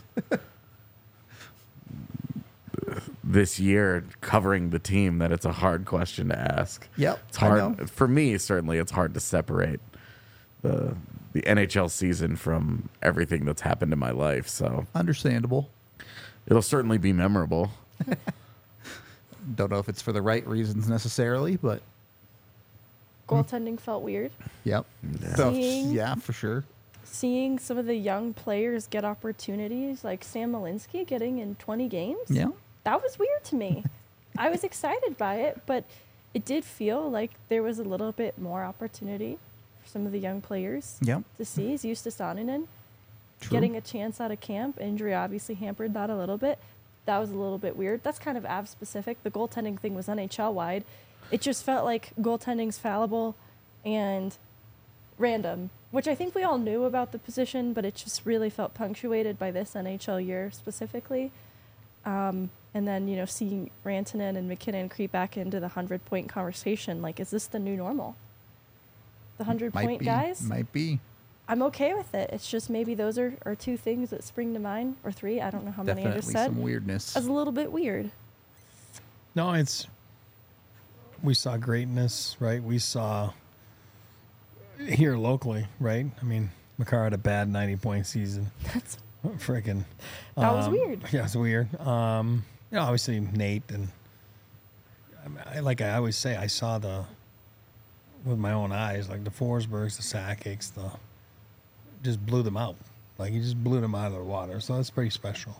this year covering the team that it's a hard question to ask. Yep, It's I hard know. for me, certainly it's hard to separate the NHL season from everything that's happened in my life, so Understandable. it'll certainly be memorable. Don't know if it's for the right reasons necessarily, but Goaltending felt weird. yep. So, Seeing- yeah, for sure. Seeing some of the young players get opportunities, like Sam Malinsky getting in 20 games, Yeah. that was weird to me. I was excited by it, but it did feel like there was a little bit more opportunity for some of the young players Yep. to see. He's used to Saarinen True. getting a chance out of camp. Injury obviously hampered that a little bit. That was a little bit weird. That's kind of Avs specific. The goaltending thing was NHL wide. It just felt like goaltending's fallible and random, which I think we all knew about the position, but it just really felt punctuated by this NHL year specifically. And then, seeing Rantanen and McKinnon creep back into the 100-point conversation, like, is this the new normal? The 100-point guys? Might be. I'm okay with it. It's just maybe those are two things that spring to mind, or three. I don't know how many I just Definitely said. some weirdness. As a little bit weird. No, we saw greatness, right? We saw here locally, right? I mean, Makar had a bad 90-point season. That's Freaking. that was weird. Yeah, it's weird. Obviously Nate and like I always say, I saw with my own eyes, like the Forsbergs, the Sakic's, just blew them out. Like he just blew them out of the water. So that's pretty special.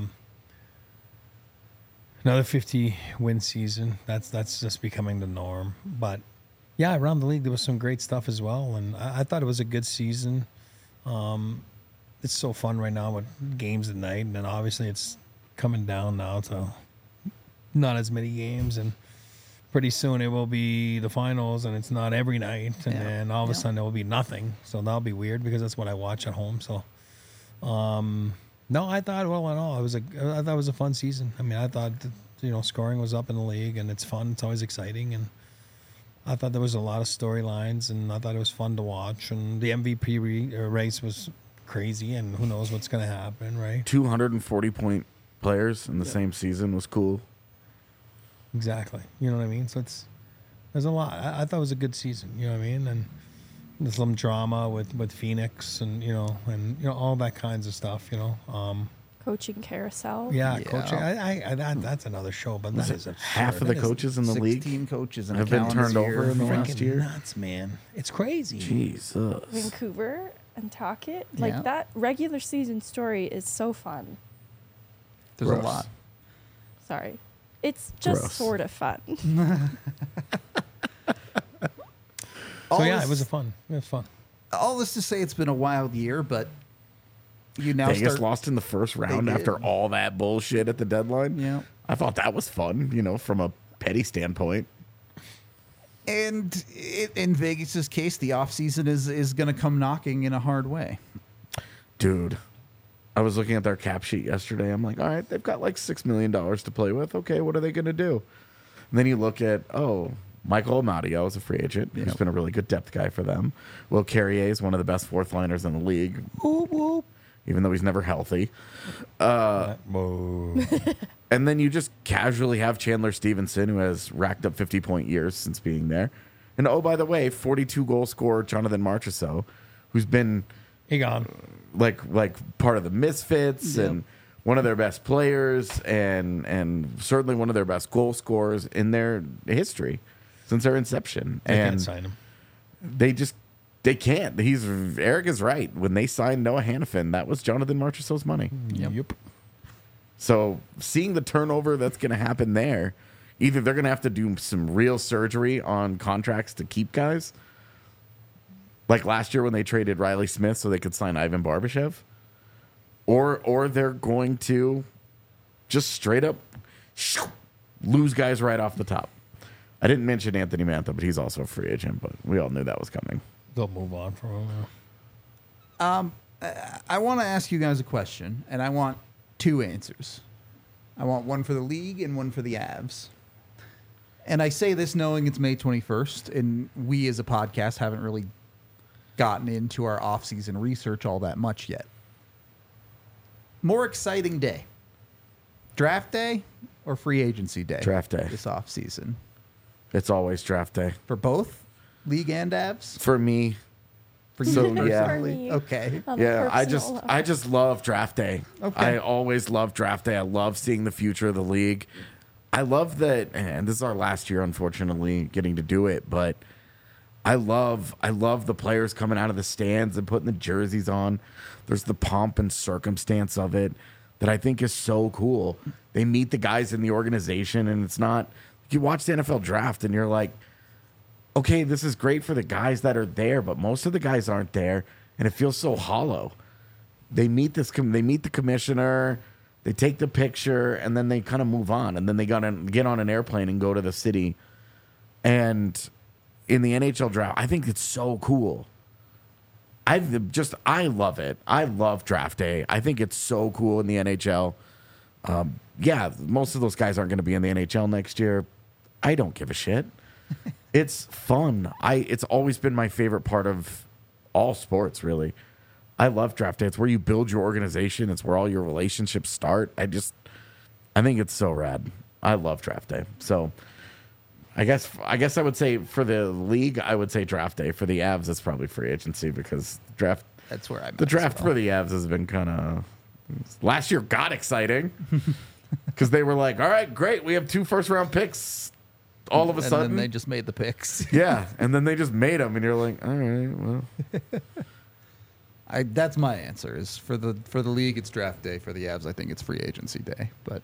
Another 50-win season. That's just becoming the norm. But yeah, around the league there was some great stuff as well, and I thought it was a good season. It's so fun right now with games at night, and then obviously it's coming down now to not as many games, and pretty soon it will be the finals, and it's not every night, and then all of a sudden there will be nothing. So that'll be weird because that's what I watch at home. So, no, I thought in all I thought it was a fun season. I mean, I thought scoring was up in the league, and it's fun. It's always exciting, and I thought there was a lot of storylines, and I thought it was fun to watch. And the MVP race was crazy, and who knows what's going to happen, right? 240-point players in the same season was cool. Exactly. You know what I mean? So there's a lot. I thought it was a good season. You know what I mean? And there's some drama with Phoenix, and all that kinds of stuff. Coaching carousel. Yeah, coaching. That's another show, but that is absurd. Half of the coaches in the 16 league coaches in have a been calendar turned year. over in the last Freaking year. nuts, man. It's crazy. Jesus. Vancouver and Talkit. Yeah. Like that regular season story is so fun. There's Gross. a lot. Sorry. It's just Gross. sort of fun. All So yeah, this- it was fun. All this to say, it's been a wild year, but you now Vegas start. lost in the first round They after did. all that bullshit at the deadline. Yeah. I thought that was fun, from a petty standpoint. And in Vegas's case, the offseason is going to come knocking in a hard way. Dude, I was looking at their cap sheet yesterday. I'm like, all right, they've got like $6 million to play with. Okay, what are they going to do? And then you look at, Michael Amadio is a free agent. He's been a really good depth guy for them. Will Carrier is one of the best fourth liners in the league, even though he's never healthy. Whoa. And then you just casually have Chandler Stevenson, who has racked up 50-point years since being there. And oh, by the way, 42-goal scorer Jonathan Marchessault, who's been He gone. like part of the Misfits and one of their best players and certainly one of their best goal scorers in their history since their inception. They and can't sign him. they can't. Eric is right. When they signed Noah Hannafin, that was Jonathan Marchessault's money. Yep. So seeing the turnover that's going to happen there, either they're going to have to do some real surgery on contracts to keep guys, like last year when they traded Riley Smith so they could sign Ivan Barbashev, or they're going to just straight up lose guys right off the top. I didn't mention Anthony Mantha, but he's also a free agent, but we all knew that was coming. They'll move on from him. now. I want to ask you guys a question, and I want two answers. I want one for the league and one for the Avs. And I say this knowing it's May 21st, and we as a podcast haven't really gotten into our off-season research all that much yet. More exciting day, draft day or free agency day? Draft day. This off-season. It's always draft day. For both league and Avs? For me, For you So, yeah. personally? For me. Okay. On a yeah, personal level. I just love draft day. Okay. I always love draft day. I love seeing the future of the league. I love that, and this is our last year, unfortunately, getting to do it, but I love the players coming out of the stands and putting the jerseys on. There's the pomp and circumstance of it that I think is so cool. They meet the guys in the organization, and it's not, you watch the NFL draft and you're like, okay, this is great for the guys that are there, but most of the guys aren't there, and it feels so hollow. They meet the commissioner, they take the picture, and then they kind of move on, and then they gotta get on an airplane and go to the city. And in the NHL draft, I think it's so cool. I love it. I love draft day. I think it's so cool in the NHL. Yeah, most of those guys aren't going to be in the NHL next year. I don't give a shit. It's fun. It's always been my favorite part of all sports, really. I love draft day. It's where you build your organization. It's where all your relationships start. I think it's so rad. I love draft day. So I guess I would say for the league, I would say draft day. For the Avs, it's probably free agency because That's where the draft for the Avs has been kind of. Last year got exciting because they were like, all right, great. We have 2 first-round picks all of a sudden. And then they just made the picks. Yeah, and then they just made them, and you're like, all right, well. That's my answer. Is for the league, it's draft day. For the Avs, I think it's free agency day. But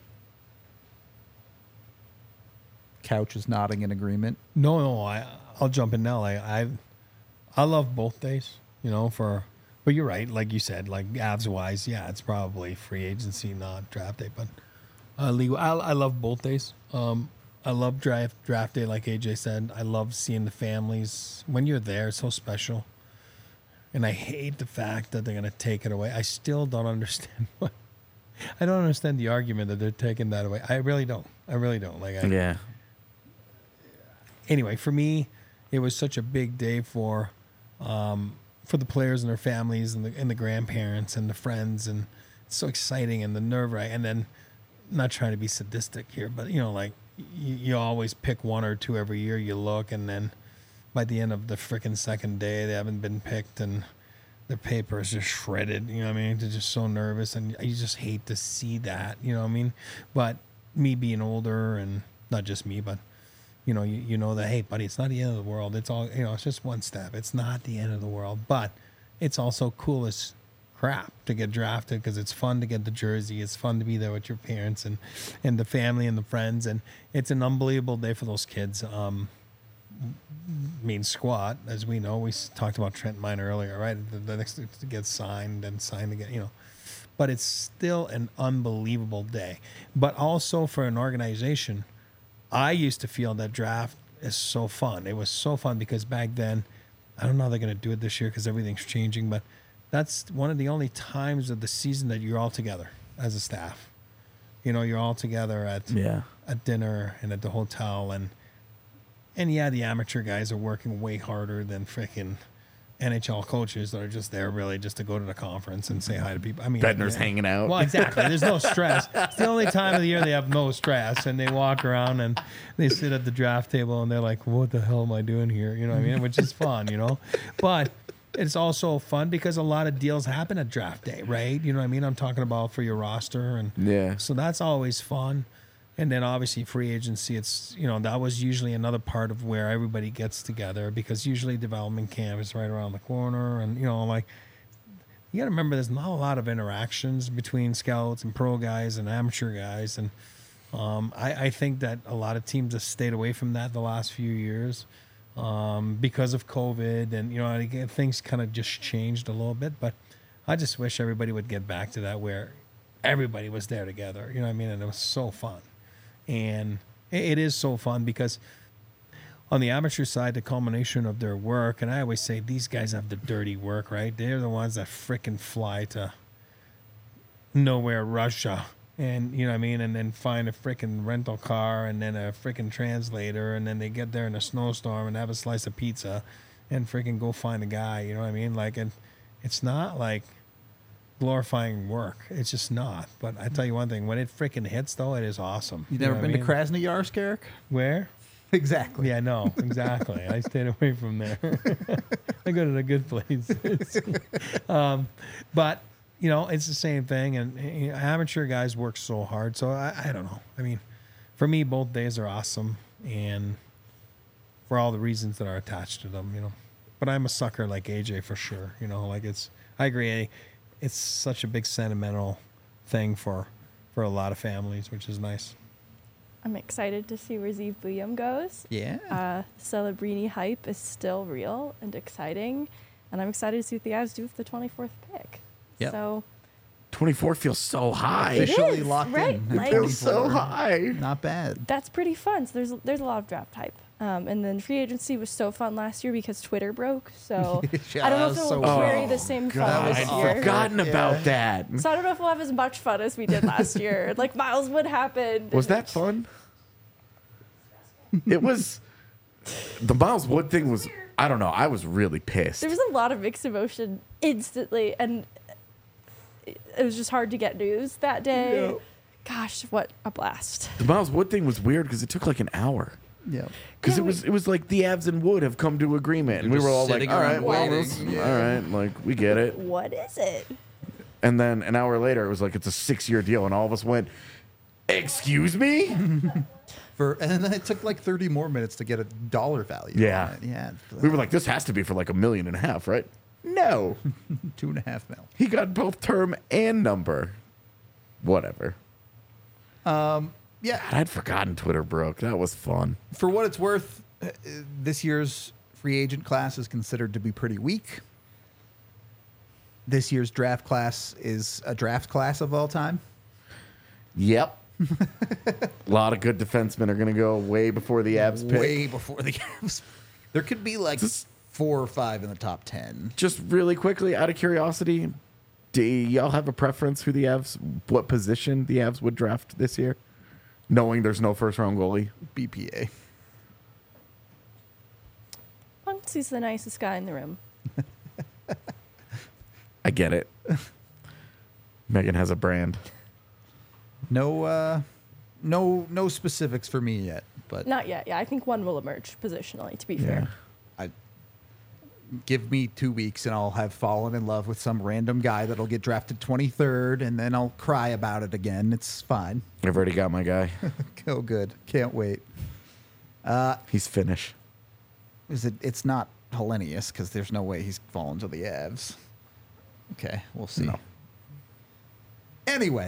Couch is nodding in agreement. No, I'll jump in now. I love both days, but you're right. Like you said, like Avs wise, yeah, it's probably free agency, not draft day. But legal, I love both days. I love draft day, like AJ said. I love seeing the families when you're there. It's so special. And I hate the fact that they're going to take it away. I still don't understand I don't understand the argument that they're taking that away. I really don't. Yeah. Anyway, for me, it was such a big day for the players and their families and the grandparents and the friends, and it's so exciting and the nerve wracking. And then, not trying to be sadistic here, but you always pick 1 or 2 every year. You look, and then by the end of the freaking second day, they haven't been picked, and their paper is just shredded. You know what I mean? They're just so nervous, and you just hate to see that. You know what I mean? But me being older, and not just me, but you know that, hey, buddy, it's not the end of the world. It's all, it's just one step. It's not the end of the world, but it's also cool as crap to get drafted because it's fun to get the jersey. It's fun to be there with your parents and the family and the friends, and it's an unbelievable day for those kids. Squat, as we know, we talked about Trent Miner earlier, right? The next to get signed and signed again, but it's still an unbelievable day. But also for an organization, I used to feel that draft is so fun. It was so fun because back then, I don't know how they're going to do it this year because everything's changing, but that's one of the only times of the season that you're all together as a staff. You're all together at dinner and at the hotel, and yeah, the amateur guys are working way harder than freaking NHL coaches that are just there really just to go to the conference and say hi to people. I mean, Bednar's hanging out. Well, exactly. There's no stress. It's the only time of the year they have no stress, and they walk around and they sit at the draft table and they're like, "What the hell am I doing here?" You know what I mean? Which is fun, But it's also fun because a lot of deals happen at draft day, right? You know what I mean? I'm talking about for your roster, and so that's always fun. And then obviously free agency, it's, that was usually another part of where everybody gets together because usually development camp is right around the corner. And, you got to remember there's not a lot of interactions between scouts and pro guys and amateur guys. And I think that a lot of teams have stayed away from that the last few years because of COVID. And, things kind of just changed a little bit. But I just wish everybody would get back to that where everybody was there together. You know what I mean? And it was so fun. And it is so fun because on the amateur side, the culmination of their work, and I always say these guys have the dirty work, right? They're the ones that frickin' fly to nowhere, Russia, and you know what I mean, and then find a frickin' rental car and then a frickin' translator, and then they get there in a snowstorm and have a slice of pizza and frickin' go find a guy, you know what I mean? Like, and it's not like glorifying work. It's just not. But I tell you one thing, when it freaking hits, though, it is awesome. You never been to Krasnoyarsk, Eric? Where? Exactly. Yeah, no, exactly. I stayed away from there. I go to the good places. But, it's the same thing. And amateur guys work so hard. So I don't know. I mean, for me, both days are awesome. And for all the reasons that are attached to them, But I'm a sucker like AJ for sure. I agree. It's such a big sentimental thing for a lot of families, which is nice. I'm excited to see where Zeev Buium goes. Yeah. Celebrini hype is still real and exciting, and I'm excited to see what the Avs do with the 24th pick. Yep. So 24 feels so high. Officially is, locked right? in. Like, It feels so high. Not bad. that's pretty fun. So there's a lot of draft hype. And then free agency was so fun last year because Twitter broke. So Yeah, I don't know if that was it'll so carry fun. the same fun God, this I'd year. forgotten about that. So I don't know if we'll have as much fun as we did last year. Like Miles Wood happened. Was that fun? It was. The Miles Wood thing was I don't know. I was really pissed. There was a lot of mixed emotion instantly, and it was just hard to get news that day. Yeah. Gosh, what a blast. The Miles Wood thing was weird because it took like an hour. Yeah. Because Yeah, it was like the Avs and Wood have come to agreement, and we They're were just all like, sitting all around right, well, waiting. Yeah. all right, like we get it. What is it? And then an hour later, it was like it's a 6-year deal, and all of us went, "Excuse me." And then it took like 30 more minutes to get a dollar value. Yeah. on it. Yeah. We were like, "This has to be for like $1.5 million, right?" No, 2.5 mil. he got both term and number. Whatever. Yeah. God, I'd forgotten Twitter broke. That was fun. For what it's worth, this year's free agent class is considered to be pretty weak. This year's draft class is a draft class of all time. Yep. A lot of good defensemen are going to go way before the Avs pick. Way before the Avs. There could be like Just- 4 or 5 in the top 10. Just really quickly, out of curiosity, do y'all have a preference who the Avs, what position the Avs would draft this year, knowing there's no first round goalie? BPA. Punks the nicest guy in the room. I get it. Megan has a brand. No specifics for me yet, but Not yet. Yeah, I think one will emerge positionally, to be fair. give me 2 weeks and I'll have fallen in love with some random guy that'll get drafted 23rd, and then I'll cry about it again. It's fine. I've already got my guy. Oh, good. Can't wait. He's Finnish. It's not Hellenius because there's no way he's fallen to the Avs. Okay, we'll see. No. Anyway,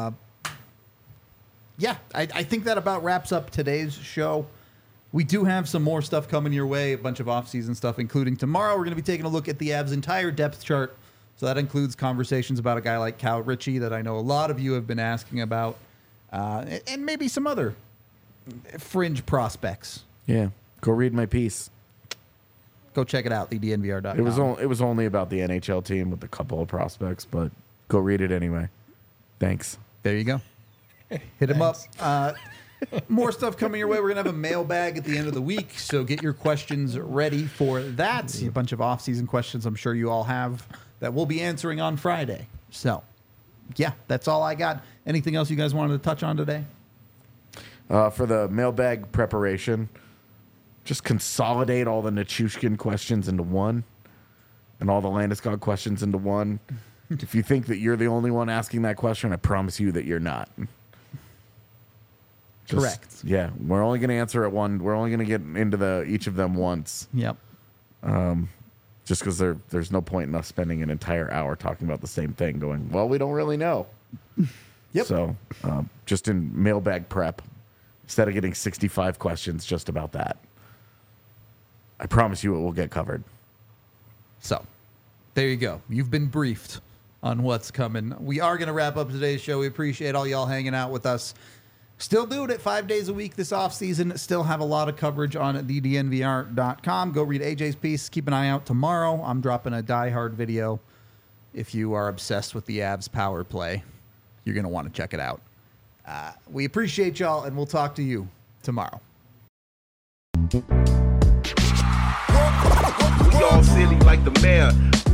yeah, I think that about wraps up today's show. We do have some more stuff coming your way, a bunch of off-season stuff, including tomorrow. We're going to be taking a look at the Avs' entire depth chart. So that includes conversations about a guy like Cal Ritchie that I know a lot of you have been asking about, and maybe some other fringe prospects. Yeah. Go read my piece. Go check it out, thednvr.com. It was only about the NHL team with a couple of prospects, but go read it anyway. Thanks. There you go. Hit him up. More stuff coming your way. We're going to have a mailbag at the end of the week, so get your questions ready for that. A bunch of off-season questions I'm sure you all have that we'll be answering on Friday. So, yeah, that's all I got. Anything else you guys wanted to touch on today? For the mailbag preparation, just consolidate all the Nichushkin questions into one and all the Landeskog questions into one. If you think that you're the only one asking that question, I promise you that you're not. Correct. Yeah, we're only going to answer it one. We're only going to get into each of them once. Yep. Just because there's no point in us spending an entire hour talking about the same thing going, well, we don't really know. Yep. So just in mailbag prep, instead of getting 65 questions just about that, I promise you it will get covered. So, there you go. You've been briefed on what's coming. We are going to wrap up today's show. We appreciate all y'all hanging out with us. Still doing it 5 days a week this offseason. Still have a lot of coverage on thednvr.com. Go read AJ's piece. Keep an eye out tomorrow. I'm dropping a Die Hard video. If you are obsessed with the Avs power play, you're going to want to check it out. We appreciate y'all, and we'll talk to you tomorrow. We all silly like the mayor.